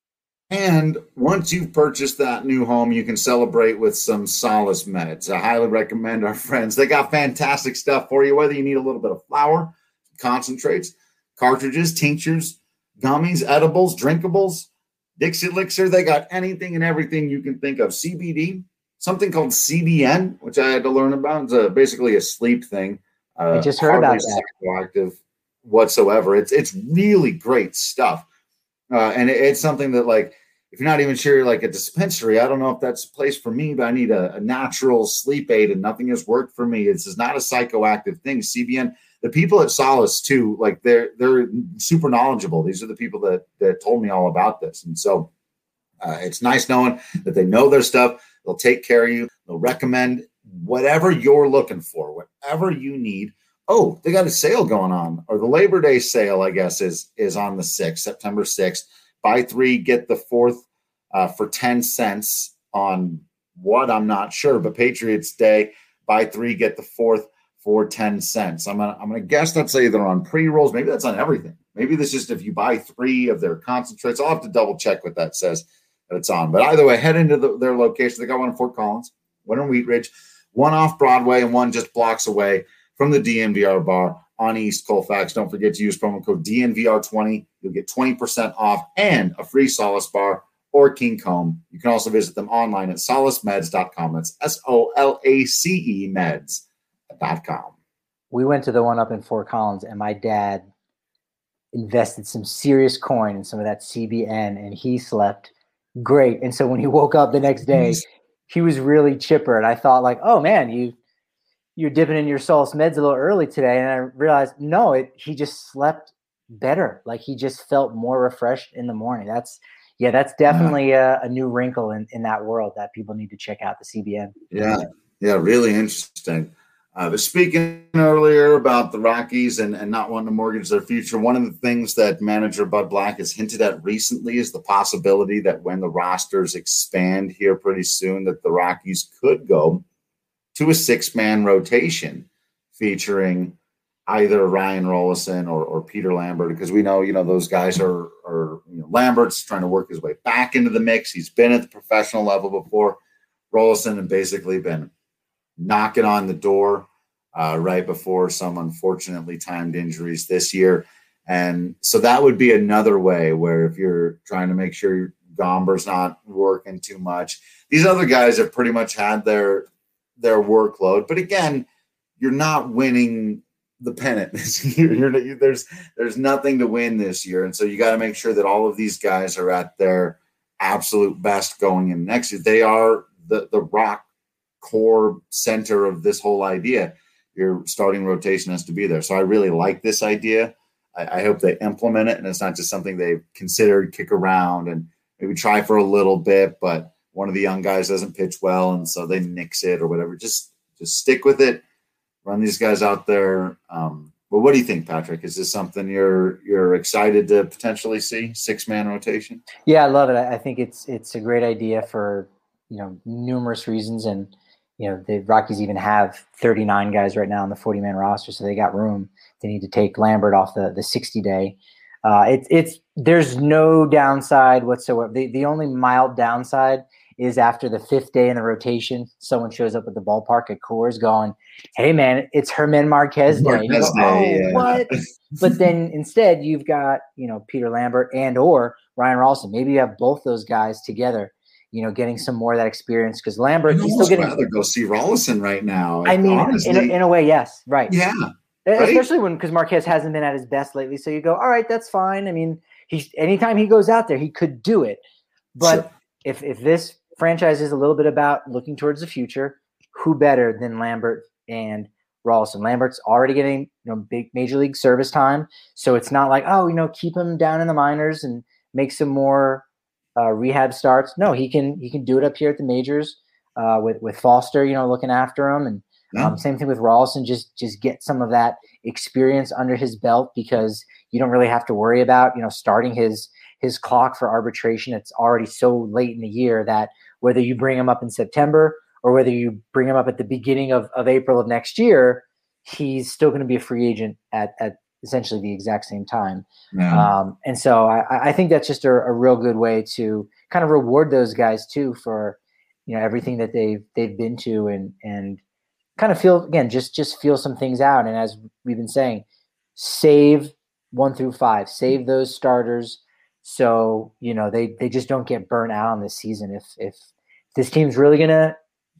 And once you've purchased that new home, you can celebrate with some Solace Meds. I highly recommend our friends. They got fantastic stuff for you, whether you need a little bit of flour, concentrates, cartridges, tinctures, gummies, edibles, drinkables, Dixie Elixir. They got anything and everything you can think of. C B D, something called C B N, which I had to learn about. It's a, basically a sleep thing. Uh, I just heard about that. Psychoactive whatsoever. It's, it's really great stuff. Uh, and it, it's something that, like, if you're not even sure, like a dispensary, I don't know if that's a place for me, but I need a, a natural sleep aid and nothing has worked for me. This is not a psychoactive thing. C B N, the people at Solace too, like they're, they're super knowledgeable. These are the people that, that told me all about this. And so uh, it's nice knowing that they know their stuff. They'll take care of you. They'll recommend whatever you're looking for, whatever you need. Oh, they got a sale going on, or the Labor Day sale, I guess, is, is on the sixth, September sixth. Buy three, get the fourth uh, for ten cents on what I'm not sure, but Patriots Day, buy three, get the fourth for ten cents. I'm gonna I'm gonna guess that's either on pre-rolls, maybe that's on everything. Maybe this is just if you buy three of their concentrates. I'll have to double check what that says that it's on. But either way, head into the, their location. They got one in Fort Collins, one in Wheat Ridge, one off Broadway, and one just blocks away from the D N V R bar on East Colfax. Don't forget to use promo code D N V R twenty. You'll get twenty percent off and a free Solace bar or King Comb. You can also visit them online at solace meds dot com. That's S O L A C E meds dot com. We went to the one up in Fort Collins, and my dad invested some serious coin in some of that C B N, and he slept great. And so when he woke up the next day, he was really chipper. And I thought like, oh man, you, you're dipping in your Solus meds a little early today. And I realized, no, it, he just slept better. Like he just felt more refreshed in the morning. That's, yeah, that's definitely yeah. a, a new wrinkle in, in that world that people need to check out, the C B N. Yeah. Yeah. Really interesting. Uh, but speaking earlier about the Rockies and, and not wanting to mortgage their future, one of the things that manager Bud Black has hinted at recently is the possibility that when the rosters expand here pretty soon, that the Rockies could go to a six-man rotation featuring either Ryan Rollison or, or Peter Lambert, because we know, you know, those guys are, are you know, Lambert's trying to work his way back into the mix. He's been at the professional level before. Rollison had basically been knocking on the door uh, right before some unfortunately timed injuries this year. And so that would be another way where if you're trying to make sure Gomber's not working too much, these other guys have pretty much had their their workload. But again, you're not winning the pennant this year. You're, there's there's nothing to win this year. And so you got to make sure that all of these guys are at their absolute best going in next year. They are the, the rock core center of this whole idea. Your starting rotation has to be there. So I really like this idea. I, I hope they implement it, and it's not just something they've considered, kick around and maybe try for a little bit, but one of the young guys doesn't pitch well, and so they nix it or whatever. Just just stick with it. Run these guys out there. Um, but what do you think, Patrick? Is this something you're you're excited to potentially see, six-man rotation? Yeah, I love it. I think it's it's a great idea for, you know, numerous reasons. And, you know, the Rockies even have thirty-nine guys right now on the forty-man roster, so they got room. They need to take Lambert off the the sixty-day. Uh, it, it's there's no downside whatsoever. The the only mild downside is after the fifth day in the rotation, someone shows up at the ballpark at Coors going, "Hey man, it's Germán Marquez Day." Marquez you go, Day, oh, yeah. what? But then instead you've got, you know, Peter Lambert and or Ryan Rollison. Maybe you have both those guys together, you know, getting some more of that experience, because Lambert, I'd he's still getting. rather go see Rollison right now. I mean, honestly, in a, in a way, yes, right. Yeah. Right? Especially when, because Marquez hasn't been at his best lately. So you go, all right, that's fine. I mean, he's anytime he goes out there, he could do it. But Sure. if if this franchise is a little bit about looking towards the future, who better than Lambert and Rollison? Lambert's already getting, you know, big major league service time, so it's not like, oh, you know, keep him down in the minors and make some more uh, rehab starts. No, he can he can do it up here at the majors uh, with with Foster, you know, looking after him. And Yeah. Um, same thing with Rollison. Just just get some of that experience under his belt, because you don't really have to worry about, you know, starting his his clock for arbitration. It's already so late in the year that whether you bring him up in September or whether you bring him up at the beginning of, of April of next year, he's still going to be a free agent at, at essentially the exact same time. Yeah. Um, and so I, I think that's just a, a real good way to kind of reward those guys too for, you know, everything that they've they've been to, and and kind of feel, again, just just feel some things out. And as we've been saying, save one through five, save those starters, so, you know, they they just don't get burnt out on this season. If if this team's really gonna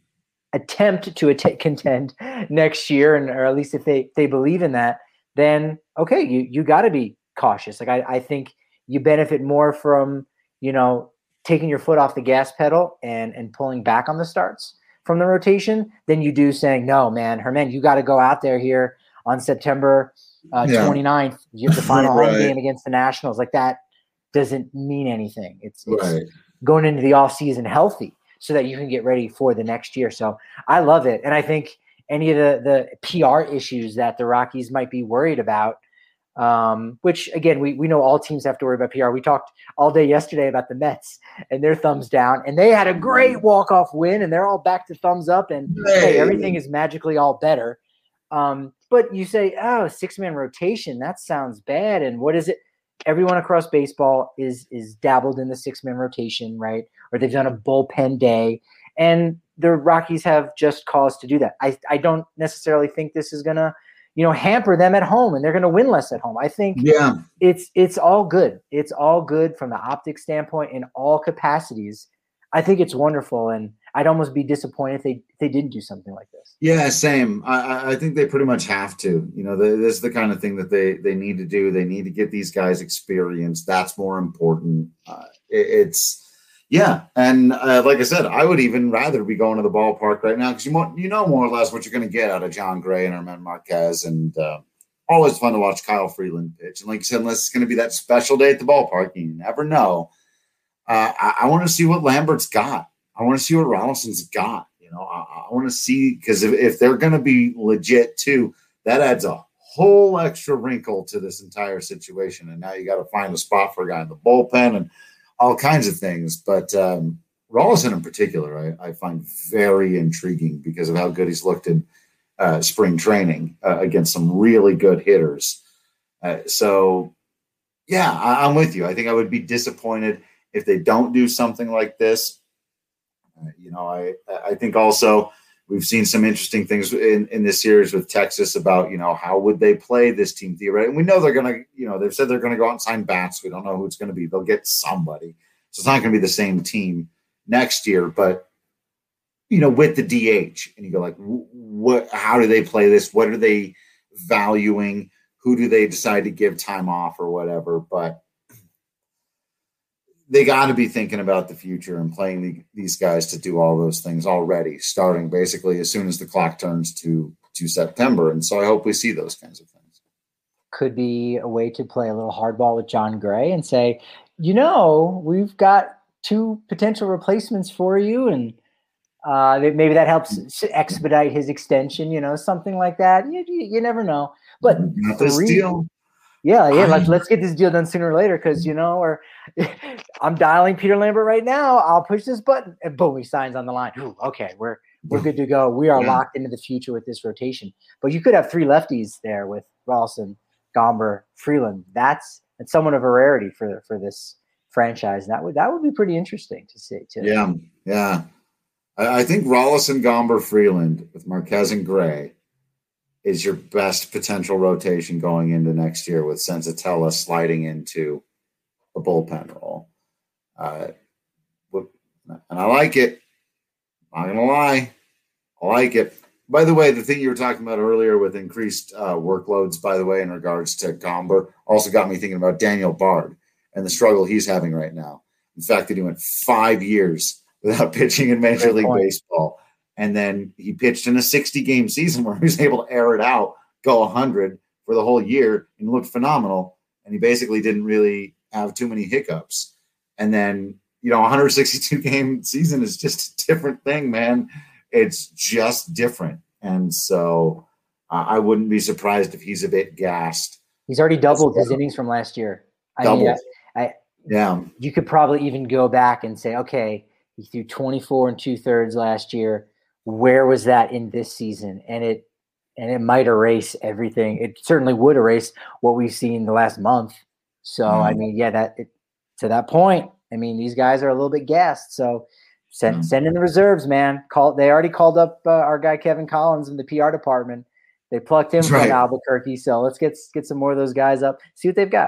attempt to att- contend next year, and or at least if they they believe in that, then okay, you you got to be cautious. Like I I think you benefit more from, you know, taking your foot off the gas pedal and and pulling back on the starts from the rotation than you do saying, no, man, Germán, you got to go out there here on September uh, Yeah. twenty-ninth, you have the final Right. home game against the Nationals. Like that doesn't mean anything. It's, it's Right. going into the off season healthy so that you can get ready for the next year. So I love it. And I think any of the, the P R issues that the Rockies might be worried about, um, which again, we, we know all teams have to worry about P R. We talked all day yesterday about the Mets and their thumbs down, and they had a great walk-off win and they're all back to thumbs up, and hey, Hey. everything is magically all better. Um, but you say, oh, six-man rotation, that sounds bad. And what is it? Everyone across baseball is is dabbled in the six-man rotation, right? Or they've done a bullpen day, and the Rockies have just cause to do that. I, I don't necessarily think this is going to, you know, hamper them at home and they're going to win less at home. I think Yeah. it's it's all good. It's all good from the optic standpoint in all capacities. I think it's wonderful, and I'd almost be disappointed if they if they didn't do something like this. Yeah, same. I- I, I think they pretty much have to. You know, the, this is the kind of thing that they they need to do. They need to get these guys experience. That's more important. Uh, it, it's, Yeah, and uh, like I said, I would even rather be going to the ballpark right now because you, mo- you know more or less what you're going to get out of John Gray and Herman Marquez, and uh, always fun to watch Kyle Freeland pitch. And like you said, unless it's going to be that special day at the ballpark, you never know. Uh, I, I want to see what Lambert's got. I want to see what Rollison's got. You know, I, I want to see because if, if they're going to be legit too, that adds a whole extra wrinkle to this entire situation. And now you got to find a spot for a guy in the bullpen and all kinds of things. But um, Rollison in particular, I, I find very intriguing because of how good he's looked in uh, spring training uh, against some really good hitters. Uh, so, yeah, I, I'm with you. I think I would be disappointed if they don't do something like this. Uh, you know, I I think also we've seen some interesting things in, in this series with Texas about, you know, how would they play this team theoretically? And we know they're going to, you know, they've said they're going to go out and sign bats. We don't know who it's going to be. They'll get somebody. So it's not going to be the same team next year, but, you know, with the D H and you go like, what, how do they play this? What are they valuing? Who do they decide to give time off or whatever? But they got to be thinking about the future and playing the, these guys to do all those things already, starting basically as soon as the clock turns to, to September. And so I hope we see those kinds of things. Could be a way to play a little hardball with John Gray and say, you know, we've got two potential replacements for you. And uh, maybe that helps expedite his extension, you know, something like that. You, you, you never know. But not this three, deal. Yeah, yeah. Let's let's get this deal done sooner or later, because you know, or I'm dialing Peter Lambert right now. I'll push this button, and boom, he signs on the line. Ooh, okay, we're we're good to go. We are yeah. locked into the future with this rotation. But you could have three lefties there with Rollison, Gomber, Freeland. That's that's somewhat of a rarity for for this franchise. That would that would be pretty interesting to see too. Yeah, yeah. I, I think Rollison, Gomber, Freeland with Marquez and Gray is your best potential rotation going into next year, with Senzatella sliding into a bullpen role. Uh, and I like it. I'm not going to lie. I like it. By the way, the thing you were talking about earlier with increased uh, workloads, by the way, in regards to Gomber, also got me thinking about Daniel Bard and the struggle he's having right now. In fact, that he went five years without pitching in Major Great League point. Baseball. And then he pitched in a sixty-game season where he was able to air it out, go one hundred for the whole year, and looked phenomenal. And he basically didn't really have too many hiccups. And then, you know, one hundred sixty-two game season is just a different thing, man. It's just different. And so uh, I wouldn't be surprised if he's a bit gassed. He's already doubled his innings from last year. I doubled. mean, I, I, yeah. You could probably even go back and say, okay, he threw twenty-four and two thirds last year. Where was that in this season? And it and it might erase everything. It certainly would erase what we've seen the last month. So mm. I mean, yeah, that it, to that point, I mean, these guys are a little bit gassed. So send mm. send in the reserves, man. Call they already called up uh, our guy Kevin Collins in the P R department. They plucked him That's from right. Albuquerque. So let's get get some more of those guys up. See what they've got.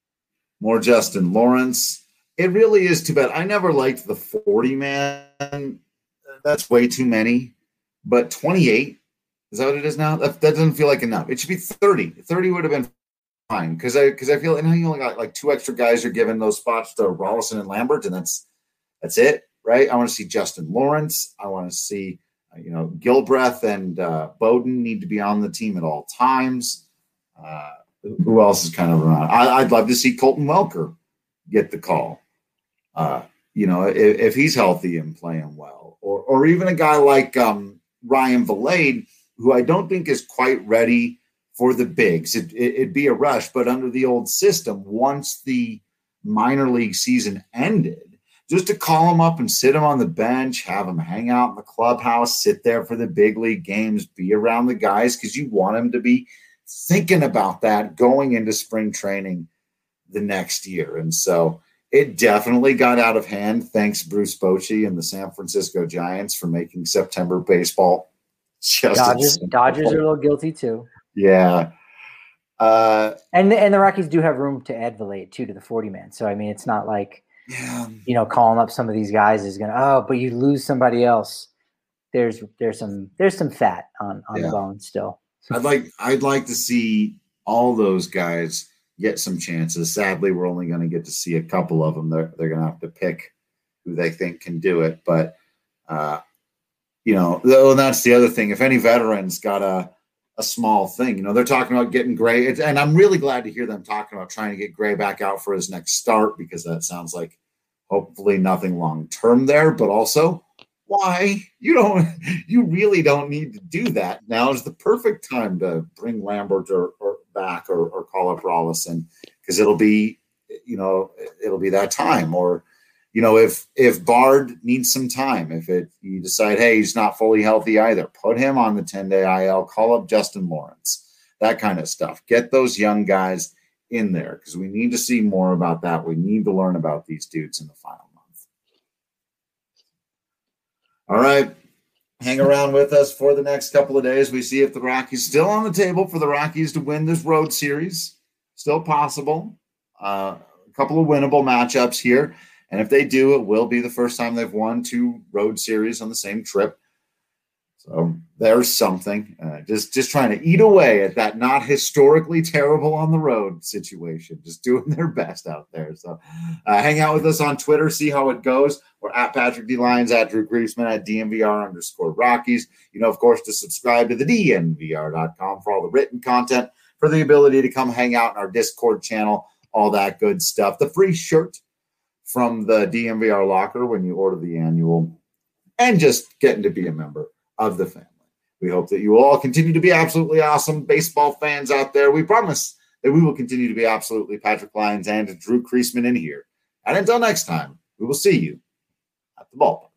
More Justin Lawrence. It really is too bad. I never liked the forty man. That's way too many, but twenty-eight, is that what it is now? That, that doesn't feel like enough. It should be thirty. thirty would have been fine, because I because I feel like you only got like two extra guys are giving those spots to Rollison and Lambert, and that's that's it, right? I want to see Justin Lawrence. I want to see, uh, you know, Gilbreth and uh, Bowden need to be on the team at all times. Uh, who else is kind of around? I, I'd love to see Colton Welker get the call. Uh, you know, if, if he's healthy and playing well. Or, or even a guy like um, Ryan Valade, who I don't think is quite ready for the bigs. It, it, it'd be a rush, but under the old system, once the minor league season ended, just to call him up and sit him on the bench, have him hang out in the clubhouse, sit there for the big league games, be around the guys, because you want him to be thinking about that going into spring training the next year. And so it definitely got out of hand. Thanks, Bruce Bochy and the San Francisco Giants, for making September baseball just Dodgers. Dodgers are a little guilty too. Yeah, uh, and the, and the Rockies do have room to add Valade too to the forty man. So I mean, it's not like yeah. you know calling up some of these guys is gonna oh, but you lose somebody else. There's there's some there's some fat on on yeah. the bone still. I'd like I'd like to see all those guys get some chances. Sadly, we're only going to get to see a couple of them. They're, they're going to have to pick who they think can do it. But, uh, you know, though that's the other thing. If any veterans got a, a small thing, you know, they're talking about getting Gray. And I'm really glad to hear them talking about trying to get Gray back out for his next start, because that sounds like hopefully nothing long-term there. But also, why? You don't, you really don't need to do that. Now is the perfect time to bring Lambert or, or back or, or call up Rollison, because it'll be, you know, it'll be that time. Or, you know, if if Bard needs some time, if it you decide, hey, he's not fully healthy either, put him on the ten-day I L, call up Justin Lawrence, that kind of stuff. Get those young guys in there, because we need to see more about that. We need to learn about these dudes in the final month. All right. Hang around with us for the next couple of days. We see if the Rockies still on the table for the Rockies to win this road series. Still possible. Uh, a couple of winnable matchups here. And if they do, it will be the first time they've won two road series on the same trip. So there's something. Uh, just, just trying to eat away at that not historically terrible on the road situation. Just doing their best out there. So uh, hang out with us on Twitter. See how it goes. We're at Patrick D. Lyons, at Drew Griesman, at D N V R underscore Rockies. You know, of course, to subscribe to the D N V R dot com for all the written content, for the ability to come hang out in our Discord channel, all that good stuff. The free shirt from the D N V R locker when you order the annual, and just getting to be a member of the family. We hope that you will all continue to be absolutely awesome baseball fans out there. We promise that we will continue to be absolutely Patrick Lyons and Drew Griesman in here. And until next time, we will see you at the ballpark.